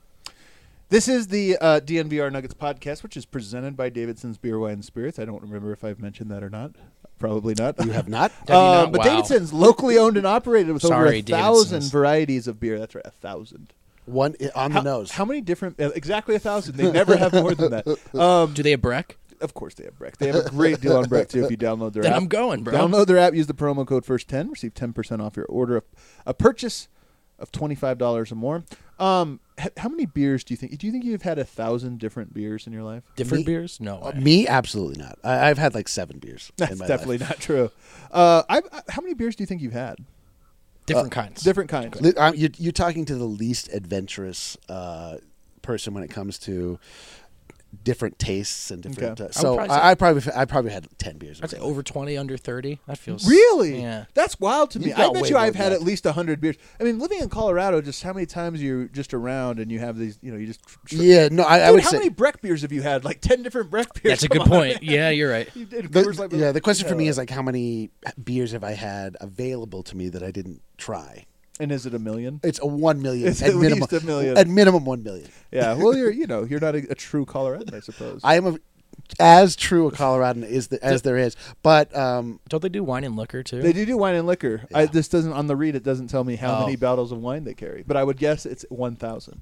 This is the DNVR Nuggets podcast, which is presented by Davidson's Beer, Wine, and Spirits. I don't remember if I've mentioned that or not. Probably not. you have not? not? But Wow. Davidson's locally owned and operated with over Sorry, 1,000 Davidson's. varieties of beer. That's right, 1,000. One on the nose. How many different? Exactly 1,000. They never have more than that. Do they have Breck? Of course they have Breck. They have a great deal on Breck, too, if you download their Then app. I'm going, bro. Download their app, use the promo code FIRST10, receive 10% off your order. A purchase of $25 or more. How many beers do you think you've had 1,000 different beers in your life? Different Me? beers? No way. Me, absolutely not. I've had like 7 beers. That's in my definitely life. not true. How many beers do you think you've had? Different kinds. Different kinds. You're talking to the least adventurous person when it comes to different tastes and different. Okay. So I would I probably had 10 beers. I'd say over 20, under 30. That feels Really? Yeah. That's wild to me. You've I got bet way you more I've than had that. at least 100 beers. I mean, living in Colorado, just how many times you're just around and you have these, you just. Yeah, no, I Dude, would how say many Breck beers have you had? Like 10 different Breck beers. That's a good Come on, point. man. Yeah, you're right. You did Coors Light, the question for me is like how many beers have I had available to me that I didn't try? And is it a million? It's a 1 million It's at at minimum. least a million. At minimum 1 million. Yeah. Well, you're not a true Coloradan, I suppose. I am as true a Coloradan as there is, but Don't they do wine and liquor too? They do wine and liquor. Yeah. This doesn't on the read. It doesn't tell me how Oh. many bottles of wine they carry, but I would guess it's 1,000.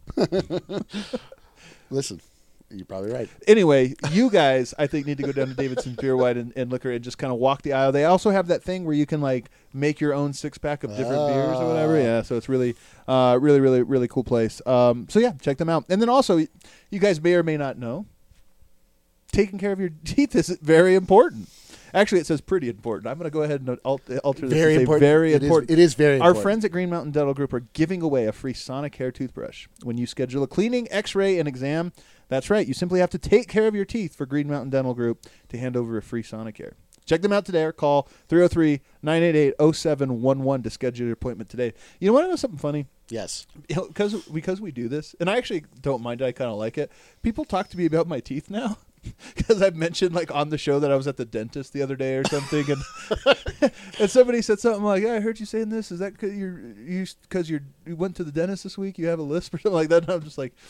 listen, you're probably right. Anyway, you guys, I think, need to go down to Davidson's Beer, Wine, and Liquor and just kind of walk the aisle. They also have that thing where you can like make your own 6-pack of different beers or whatever. Yeah, so it's really, really cool place. So yeah, check them out. And then also, you guys may or may not know, taking care of your teeth is very important. Actually, it says pretty important. I'm going to go ahead and alter this Very to say important. very It is- important. it is very Our important. friends at Green Mountain Dental Group are giving away a free Sonicare toothbrush when you schedule a cleaning, x-ray, and exam. That's right. You simply have to take care of your teeth for Green Mountain Dental Group to hand over a free Sonicare. Check them out today or call 303-988-0711 to schedule your appointment today. You know, want to know something funny? Yes. Because we do this, and I actually don't mind it. I kind of like it. People talk to me about my teeth now. Because I've mentioned like on the show that I was at the dentist the other day or something, and and somebody said something like, "Yeah, I heard you saying this. Is that because you went to the dentist this week? You have a lisp or something like that?" And I'm just like,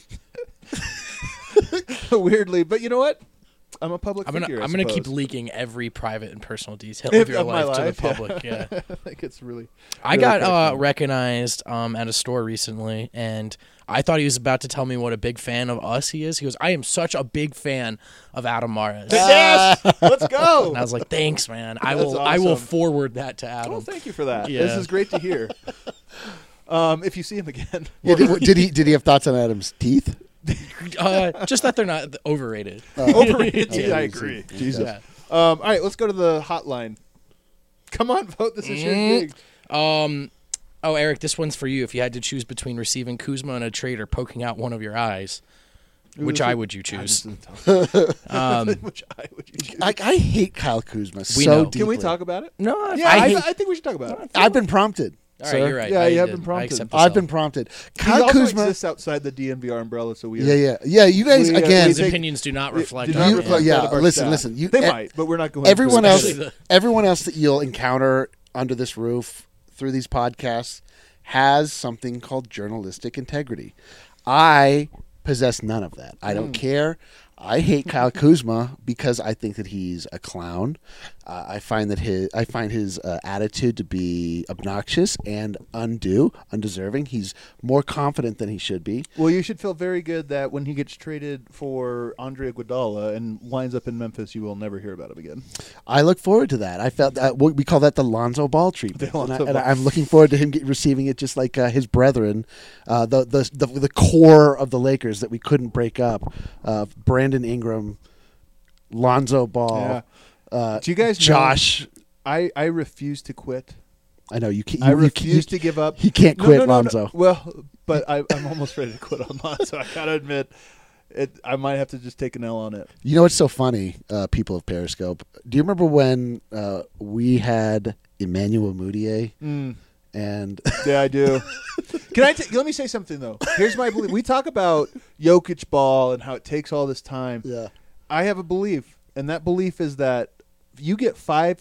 weirdly, but you know what? I'm a public figure. I'm gonna keep suppose. leaking every private and personal detail of your Of my life to the life, yeah. public. Yeah. I think it's really. I really got kinda funny. recognized at a store recently, and I thought he was about to tell me what a big fan of us he is. He goes, "I am such a big fan of Adam Mares." Yes, let's go. And I was like, "Thanks, man. I That's will awesome. forward that to Adam." Well, thank you for that. Yeah. This is great to hear. If you see him again, Yeah, did he have thoughts on Adam's teeth? Just that they're not overrated. overrated. Yeah, I you agree. see. Jesus. Yeah. All right, let's go to the hotline. Come on, vote. This is your gig. Oh, Eric, this one's for you. If you had to choose between receiving Kuzma and a trade or poking out one of your eyes, which eye would you choose? Which eye would you choose? I hate Kyle Kuzma We so know. deeply. Can we talk about it? No, Yeah, I think we should talk about it. I've been prompted. All right, sir. you're right. Yeah, I you have did. been prompted. I accept the I've sell. been prompted. He Kyle also Kuzma. exists outside the DNVR umbrella, so we are. Yeah. You guys We, again. His take- opinions do not reflect. do on not it. reflect Yeah, that of our listen, staff. listen, you- They e- might, but we're not going. everyone to else, Especially the- everyone else that you'll encounter under this roof through these podcasts has something called journalistic integrity. I possess none of that. I don't care. I hate Kyle Kuzma because I think that he's a clown. I find his attitude to be obnoxious and undeserving. He's more confident than he should be. Well, you should feel very good that when he gets traded for Andre Iguodala and winds up in Memphis, you will never hear about him again. I look forward to that. I felt that we call that the Lonzo Ball treatment, and I'm looking forward to him receiving it just like his brethren, the core of the Lakers that we couldn't break up. Brandon Ingram, Lonzo Ball. Yeah. Do you guys Josh? Know, I refuse to quit. I know you can't. I refuse to give up. He can't quit Lonzo. No. Well, but I'm almost ready to quit on Lonzo. I gotta admit, I might have to just take an L on it. You know what's so funny, people of Periscope? Do you remember when we had Emmanuel Mudiay? And yeah, I do. Let me say something though. Here's my belief. We talk about Jokic ball and how it takes all this time. Yeah. I have a belief, and that belief is that you get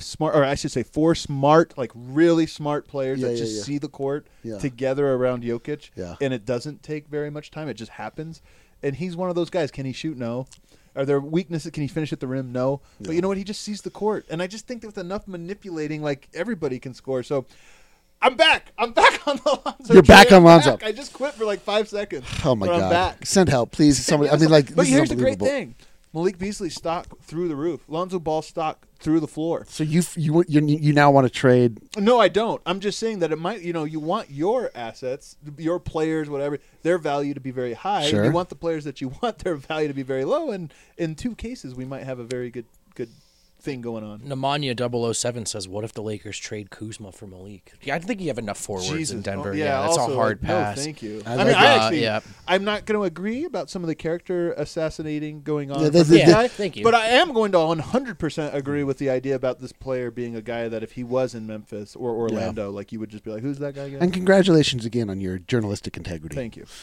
four smart, like really smart players that just see the court together around Jokic, and it doesn't take very much time. It just happens. And he's one of those guys. Can he shoot? No. Are there weaknesses? Can he finish at the rim? No. But you know what? He just sees the court. And I just think that with enough manipulating, like everybody can score. So I'm back. I'm back on the Lonzo. You're back on Lonzo. I just quit for like 5 seconds. Oh my God! I'm back. Send help, please. Somebody. I mean, like. But here's the great thing: Malik Beasley's stock through the roof. Lonzo Ball's stock through the floor. So you now want to trade? No, I don't. I'm just saying that it might. You want your assets, your players, whatever, their value to be very high. Sure. You want the players that you want their value to be very low. And in 2 cases, we might have a very good thing going on. Nemanja 007 says, "What if the Lakers trade Kuzma for Malik?" Yeah, I think you have enough forwards in Denver. Oh, that's also, a hard pass. No, thank you. I I'm not going to agree about some of the character assassinating going on. Thank you. But I am going to 100% agree with the idea about this player being a guy that if he was in Memphis or Orlando, like you would just be like, "Who's that guy again?" And congratulations again on your journalistic integrity. Thank you.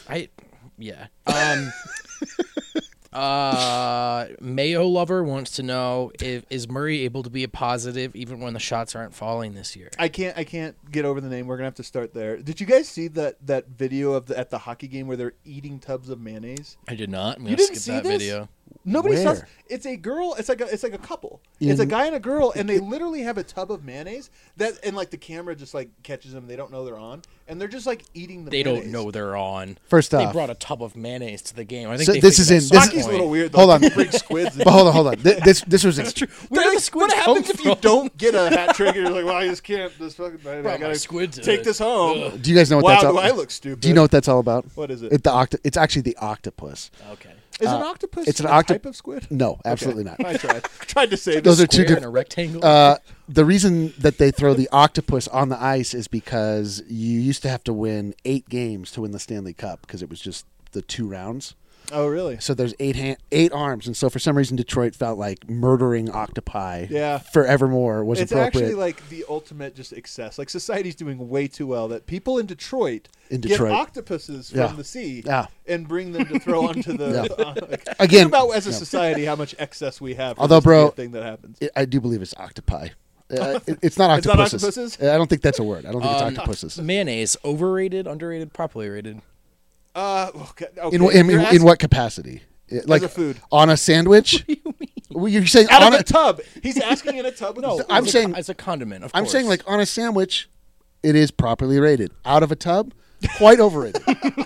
Mayo Lover wants to know is Murray able to be a positive even when the shots aren't falling this year? I can't get over the name. We're gonna have to start there. Did you guys see that video of at the hockey game where they're eating tubs of mayonnaise? I did not. You didn't see that video. Nobody Where? saw. It's a girl. It's like a couple. It's a guy and a girl, and they literally have a tub of mayonnaise and like the camera just like catches them. They don't know they're on, and they're just like eating the. They mayonnaise. don't know they're on. First off, they brought a tub of mayonnaise to the game. I think So they this is in- this- Hockey's a little weird. Though. Hold on. Bring squids. but hold on. This was That's true. Where do the squids What happens come if you from? don't get a hat trick and you're like, well, I just can't. This fucking. I Brought my gotta squid to take it. this home. Do you guys know what Wow, that's all do I look stupid? Do you know what that's all about? What is it? It's actually the octopus. Okay. Is an octopus it's an a type of squid? No, absolutely Okay. not. I tried to say Those this are two Square different. in a rectangle. The reason that they throw the octopus on the ice is because you used to have to win 8 games to win the Stanley Cup because it was just the 2 rounds. Oh, really? So there's 8 arms, and so for some reason Detroit felt like murdering octopi forevermore was it's appropriate. actually like the ultimate just excess. Like society's doing way too well that people in Detroit get octopuses from the sea and bring them to throw onto the. Again, think about as a society how much excess we have. For although, this bro, thing that happens. I do believe it's octopi. It's not octopuses. It's not octopuses? I don't think that's a word. I don't think it's octopuses. Mayonnaise, overrated, underrated, properly rated. Okay. In what capacity? Like as a food on a sandwich? What do you mean? Well, you're saying out on of a tub. He's asking in a tub. With No, I'm saying as a condiment. Of course. I'm saying like on a sandwich, it is properly rated. Out of a tub, quite overrated.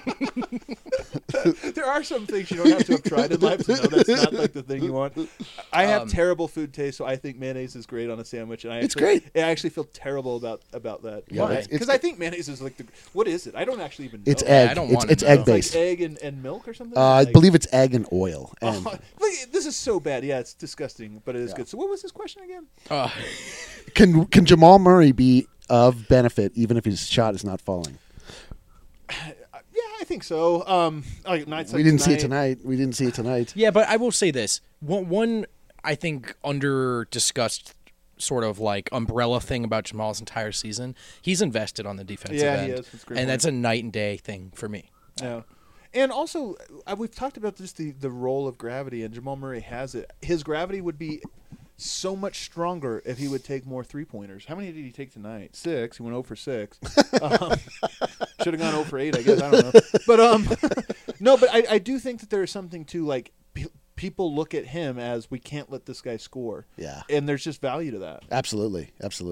There are some things you don't have to have tried in life to know that's not like the thing you want. I have terrible food taste, so I think mayonnaise is great on a sandwich, and It's great. I actually feel terrible about that. Yeah, Because I think mayonnaise is like what is it? I don't actually even know. It's egg. I don't want It's to know. egg It's like based. egg and milk or something. I believe it's egg and oil. And Look, this is so bad. Yeah, it's disgusting, but it is good. So what was his question again? can Jamal Murray be of benefit even if his shot is not falling? Yeah, I think so. Like nights We like didn't see it tonight. We didn't see it tonight. Yeah, but I will say this. One I think under discussed sort of like umbrella thing about Jamal's entire season, he's invested on the defensive end. He is. That's a great and point. that's a night and day thing for me. Yeah. And also, we've talked about just the role of gravity, and Jamal Murray has it. His gravity would be so much stronger if he would take more three-pointers. How many did he take tonight? 6. He went 0 for 6. Should have gone 0 for 8, I guess. I don't know. But no, but I do think that there is something to like people look at him as we can't let this guy score. Yeah. And there's just value to that. Absolutely.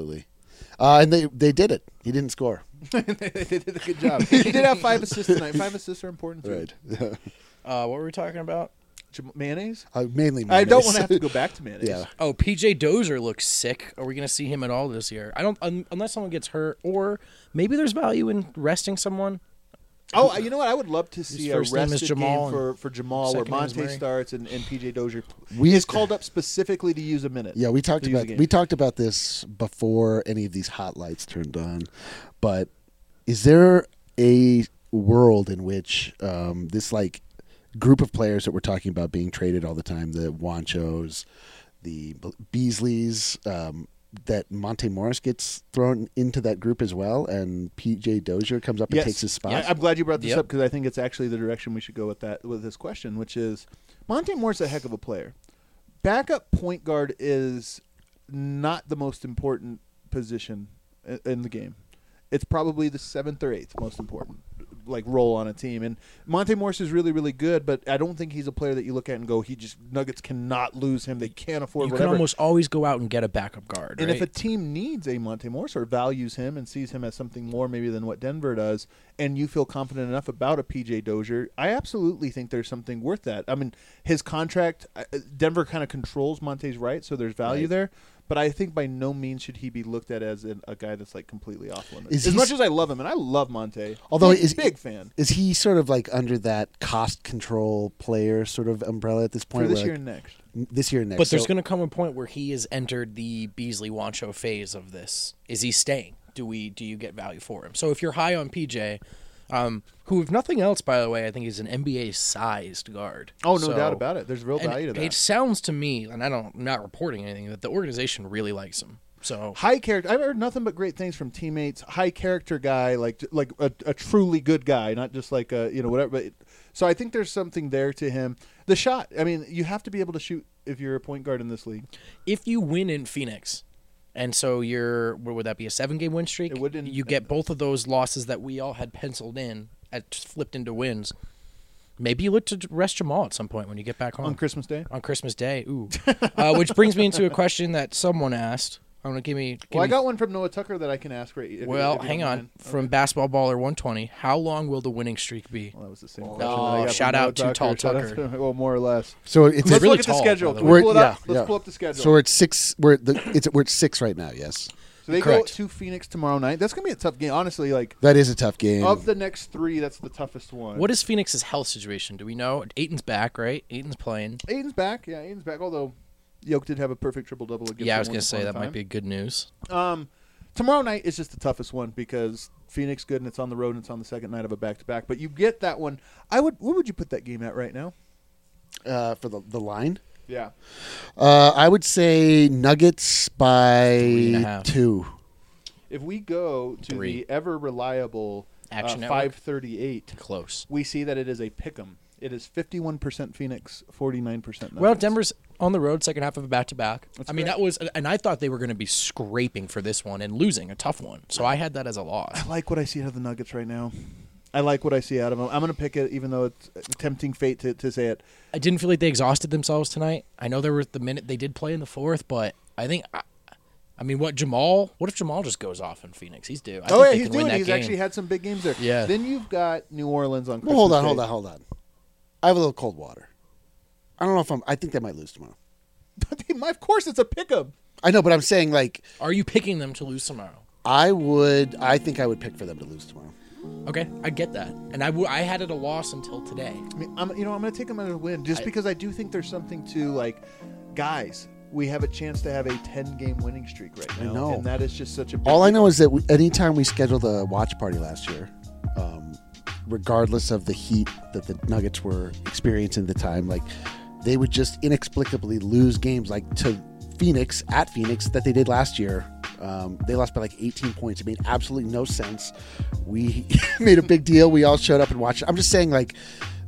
And they did it. He didn't score. They did a good job. He did have 5 assists tonight. 5 assists are important. Right. What were we talking about? Mayonnaise? Mainly mayonnaise. I don't want to have to go back to mayonnaise. Yeah. Oh, PJ Dozier looks sick. Are we going to see him at all this year? I don't, unless someone gets hurt, or maybe there's value in resting someone. Oh, you know what? I would love to see a first name is rested Jamal game for Jamal where second name is Monte Murray. starts and PJ Dozier We- is called up specifically to use a minute. Yeah, we talked to use a about game. we talked about this before any of these hot lights turned on. But is there a world in which this like group of players that we're talking about being traded all the time, the Wanchos, the Beasleys, that Monte Morris gets thrown into that group as well, and PJ Dozier comes up and Yes. takes his spot? Yeah, I'm glad you brought this Yep. up because I think it's actually the direction we should go with this question, which is Monte Moore's a heck of a player. Backup point guard is not the most important position in the game. It's probably the 7th or 8th most important role on a team. And Monte Morris is really, really good, but I don't think he's a player that you look at and go, Nuggets cannot lose him. They can't afford You whatever. can almost always go out and get a backup guard. And right? if a team needs a Monte Morris or values him and sees him as something more maybe than what Denver does, and you feel confident enough about a PJ Dozier, I absolutely think there's something worth that. I mean, his contract, Denver kind of controls Monte's right, so there's value Right. there. But I think by no means should he be looked at as a guy that's completely off limits. Is As he much as I love him, and I love Monte, Although big fan Is he sort of under that cost control player sort of umbrella at this point? for this where, year and next. This year and next. But there's So- going to come a point where he has entered the Beasley Wancho phase of this. Is he staying? Do you get value for him? So if you're high on PJ, who if nothing else, by the way, I think is an NBA-sized guard. Oh, no So- doubt about it. There's real and value to that. It sounds to me, and I'm not reporting anything, that the organization really likes him. So High character. I've heard nothing but great things from teammates. High character guy, like a truly good guy, not just whatever. But so I think there's something there to him. The shot. I mean, you have to be able to shoot if you're a point guard in this league. if you win in Phoenix, and so what would that be, a 7-game win streak? It would. You get both of those losses that we all had penciled in, flipped into wins. Maybe you look to rest Jamal at some point when you get back home. On Christmas Day. On Christmas Day, ooh. Which brings me into a question that someone asked. I'm gonna give me. Well, I got one from Noah Tucker that I can ask right. if Well, you don't hang on. mind. From Basketball Baller 120, how long will the winning streak be? Well, that was the same Oh, question. that I got from shout Noah out to Tall Shout out Tucker. to- well, more or less. So it's Let's really look at the tall, schedule. by the Can way. we pull it up? Yeah, Let's yeah. pull up the schedule. So we're at 6. We're at 6 right now. Yes, So they Correct. go to Phoenix tomorrow night. That's gonna be a tough game. Honestly, that is a tough game. of the next 3, that's the toughest one. What is Phoenix's health situation? Do we know? Aiton's back, right? Aiton's playing. Aiden's back. Yeah, Aiden's back. Although Yoke did have a perfect triple-double against. Yeah, I was them gonna once say upon a that might time. be good news. Tomorrow night is just the toughest one because Phoenix good and it's on the road and it's on the second night of a back-to-back. But you get that one. What would you put that game at right now? For the line. Yeah. I would say Nuggets by 3.5. 2. If we go to 3. the ever reliable Action Network? 538, Close. we see that it is a pick'em. It is 51% Phoenix, 49% Nuggets. Well, Denver's on the road, second half of a back-to-back. That's I mean, correct. that was, and I thought they were going to be scraping for this one and losing a tough one. So I had that as a loss. I like what I see out of the Nuggets right now. I like what I see out of them. I'm going to pick it, even though it's a tempting fate to say it. I didn't feel like they exhausted themselves tonight. I know there was the minute they did play in the fourth, but I think, I mean, what if Jamal just goes off in Phoenix? He's due. I think they He's can win doing. that He's game. actually had some big games there. Yeah. Then you've got New Orleans on. Well, Christmas hold Day. on. I have a little cold water. I don't know if I think they might lose tomorrow. Of course, it's a pick'em. I know, but I'm saying Are you picking them to lose tomorrow? I think I would pick for them to lose tomorrow. Okay, I get that, and I had it a loss until today. I mean, I'm going to take them as a win just because I do think there's something to guys. We have a chance to have a 10-game winning streak right now, I know. and that is just such a. Big All I deal. know is that anytime we scheduled a watch party last year, regardless of the heat that the Nuggets were experiencing at the time, they would just inexplicably lose games to Phoenix at Phoenix that they did last year. They lost by 18 points. It made absolutely no sense. We made a big deal. We all showed up and watched it. I'm just saying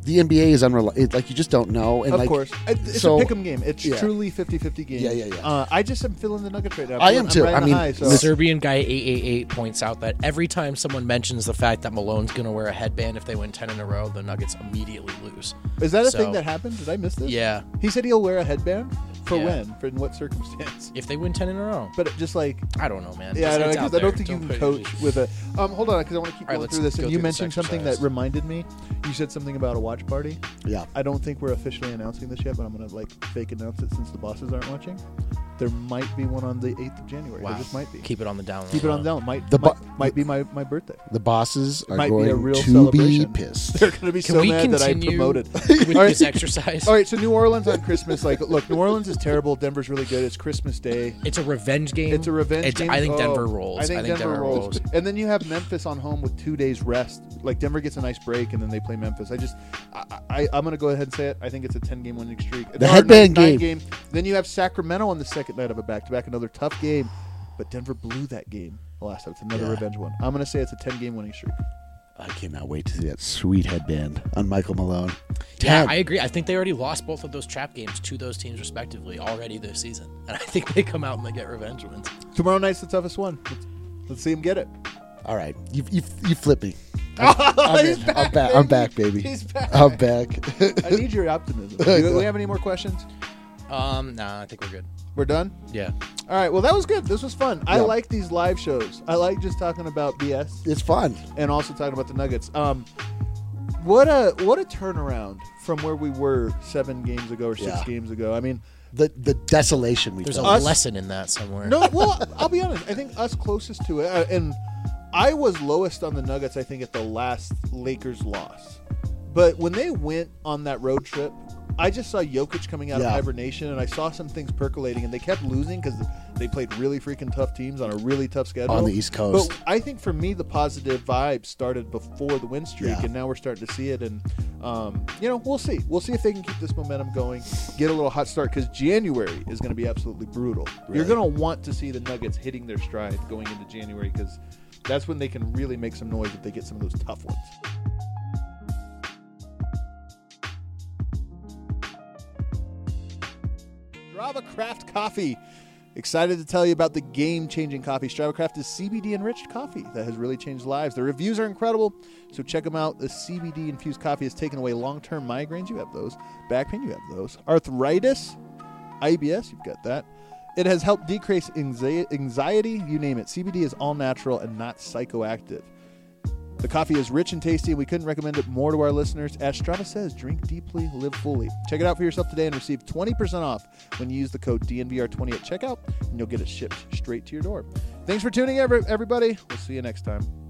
the NBA is unreliable. Like, you just don't know. And Of course. It's a pick 'em game. It's Yeah. truly 50-50 game. Yeah. I just am feeling the Nuggets right now. I am too. I'm riding the high, so. The Serbian guy 888 points out that every time someone mentions the fact that Malone's going to wear a headband if they win 10 in a row, the Nuggets immediately lose. Is that a So- thing that happened? Did I miss this? Yeah. He said he'll wear a headband? For Yeah. when? For in what circumstance? If they win 10 in a row. But just like... I don't know, man. Yeah, It's I out don't there. think you Don't can put it- coach with a... hold on, because I want to keep All right, going let's through this. go And you through this mentioned something that exercise. reminded me. You said something about a watch party. Yeah. I don't think we're officially announcing this yet, but I'm going to fake announce it since the bosses aren't watching. There might be one on the 8th of January. Wow. There just might be. Keep it on the down. Keep it on down. Might be my birthday. The bosses are Might be a going real to celebration. be pissed. They're going to be Can so we mad that I continue promoted. with All right. this exercise? All right, so New Orleans on Christmas. Look, New Orleans is terrible. Denver's really good. It's Christmas Day. It's a revenge game. It's a revenge game. I think Oh, Denver rolls. I think Denver rolls. And then you have Memphis on home with 2 days rest. Like, Denver gets a nice break, and then they play Memphis. I'm going to go ahead and say it. I think it's a 10-game winning streak. The headband game. Then you have Sacramento on the second night of a back-to-back, another tough game. But Denver blew that game the last time. It's another revenge one. I'm going to say it's a 10-game winning streak. I cannot wait to see that sweet headband on Michael Malone. Yeah, 10. I agree. I think they already lost both of those trap games to those teams respectively already this season. And I think they come out and they get revenge wins. Tomorrow night's the toughest one. Let's see him get it. All right. You flip me. He's back, I'm back, baby. He's back. I'm back. I need your optimism. Do we have any more questions? Nah, I think we're good. We're done? Yeah. All right. Well, that was good. This was fun. I Yeah. like these live shows. I like just talking about BS It's fun. and also talking about the Nuggets. What a turnaround from where we were 7 games ago or 6 Yeah. games ago. I mean, The desolation we There's a felt. lesson in that somewhere. no. Well, I'll be honest. I think us closest to it, and I was lowest on the Nuggets. I think at the last Lakers loss, but when they went on that road trip, I just saw Jokic coming out of Yeah. hibernation, and I saw some things percolating, and they kept losing because they played really freaking tough teams on a really tough schedule On the East Coast. But I think for me, the positive vibe started before the win streak, Yeah. and now we're starting to see it. And we'll see. We'll see if they can keep this momentum going, get a little hot start, because January is going to be absolutely brutal. Really? You're going to want to see the Nuggets hitting their stride going into January, because that's when they can really make some noise if they get some of those tough ones. Strava Craft Coffee. Excited to tell you about the game-changing coffee. Strava Craft is CBD-enriched coffee that has really changed lives. The reviews are incredible, so check them out. The CBD-infused coffee has taken away long-term migraines. You have those. Back pain, you have those. Arthritis, IBS, you've got that. It has helped decrease anxiety, you name it. CBD is all natural and not psychoactive. The coffee is rich and tasty, and we couldn't recommend it more to our listeners. As Strava says, drink deeply, live fully. Check it out for yourself today and receive 20% off when you use the code DNVR20 at checkout, and you'll get it shipped straight to your door. Thanks for tuning in, everybody. We'll see you next time.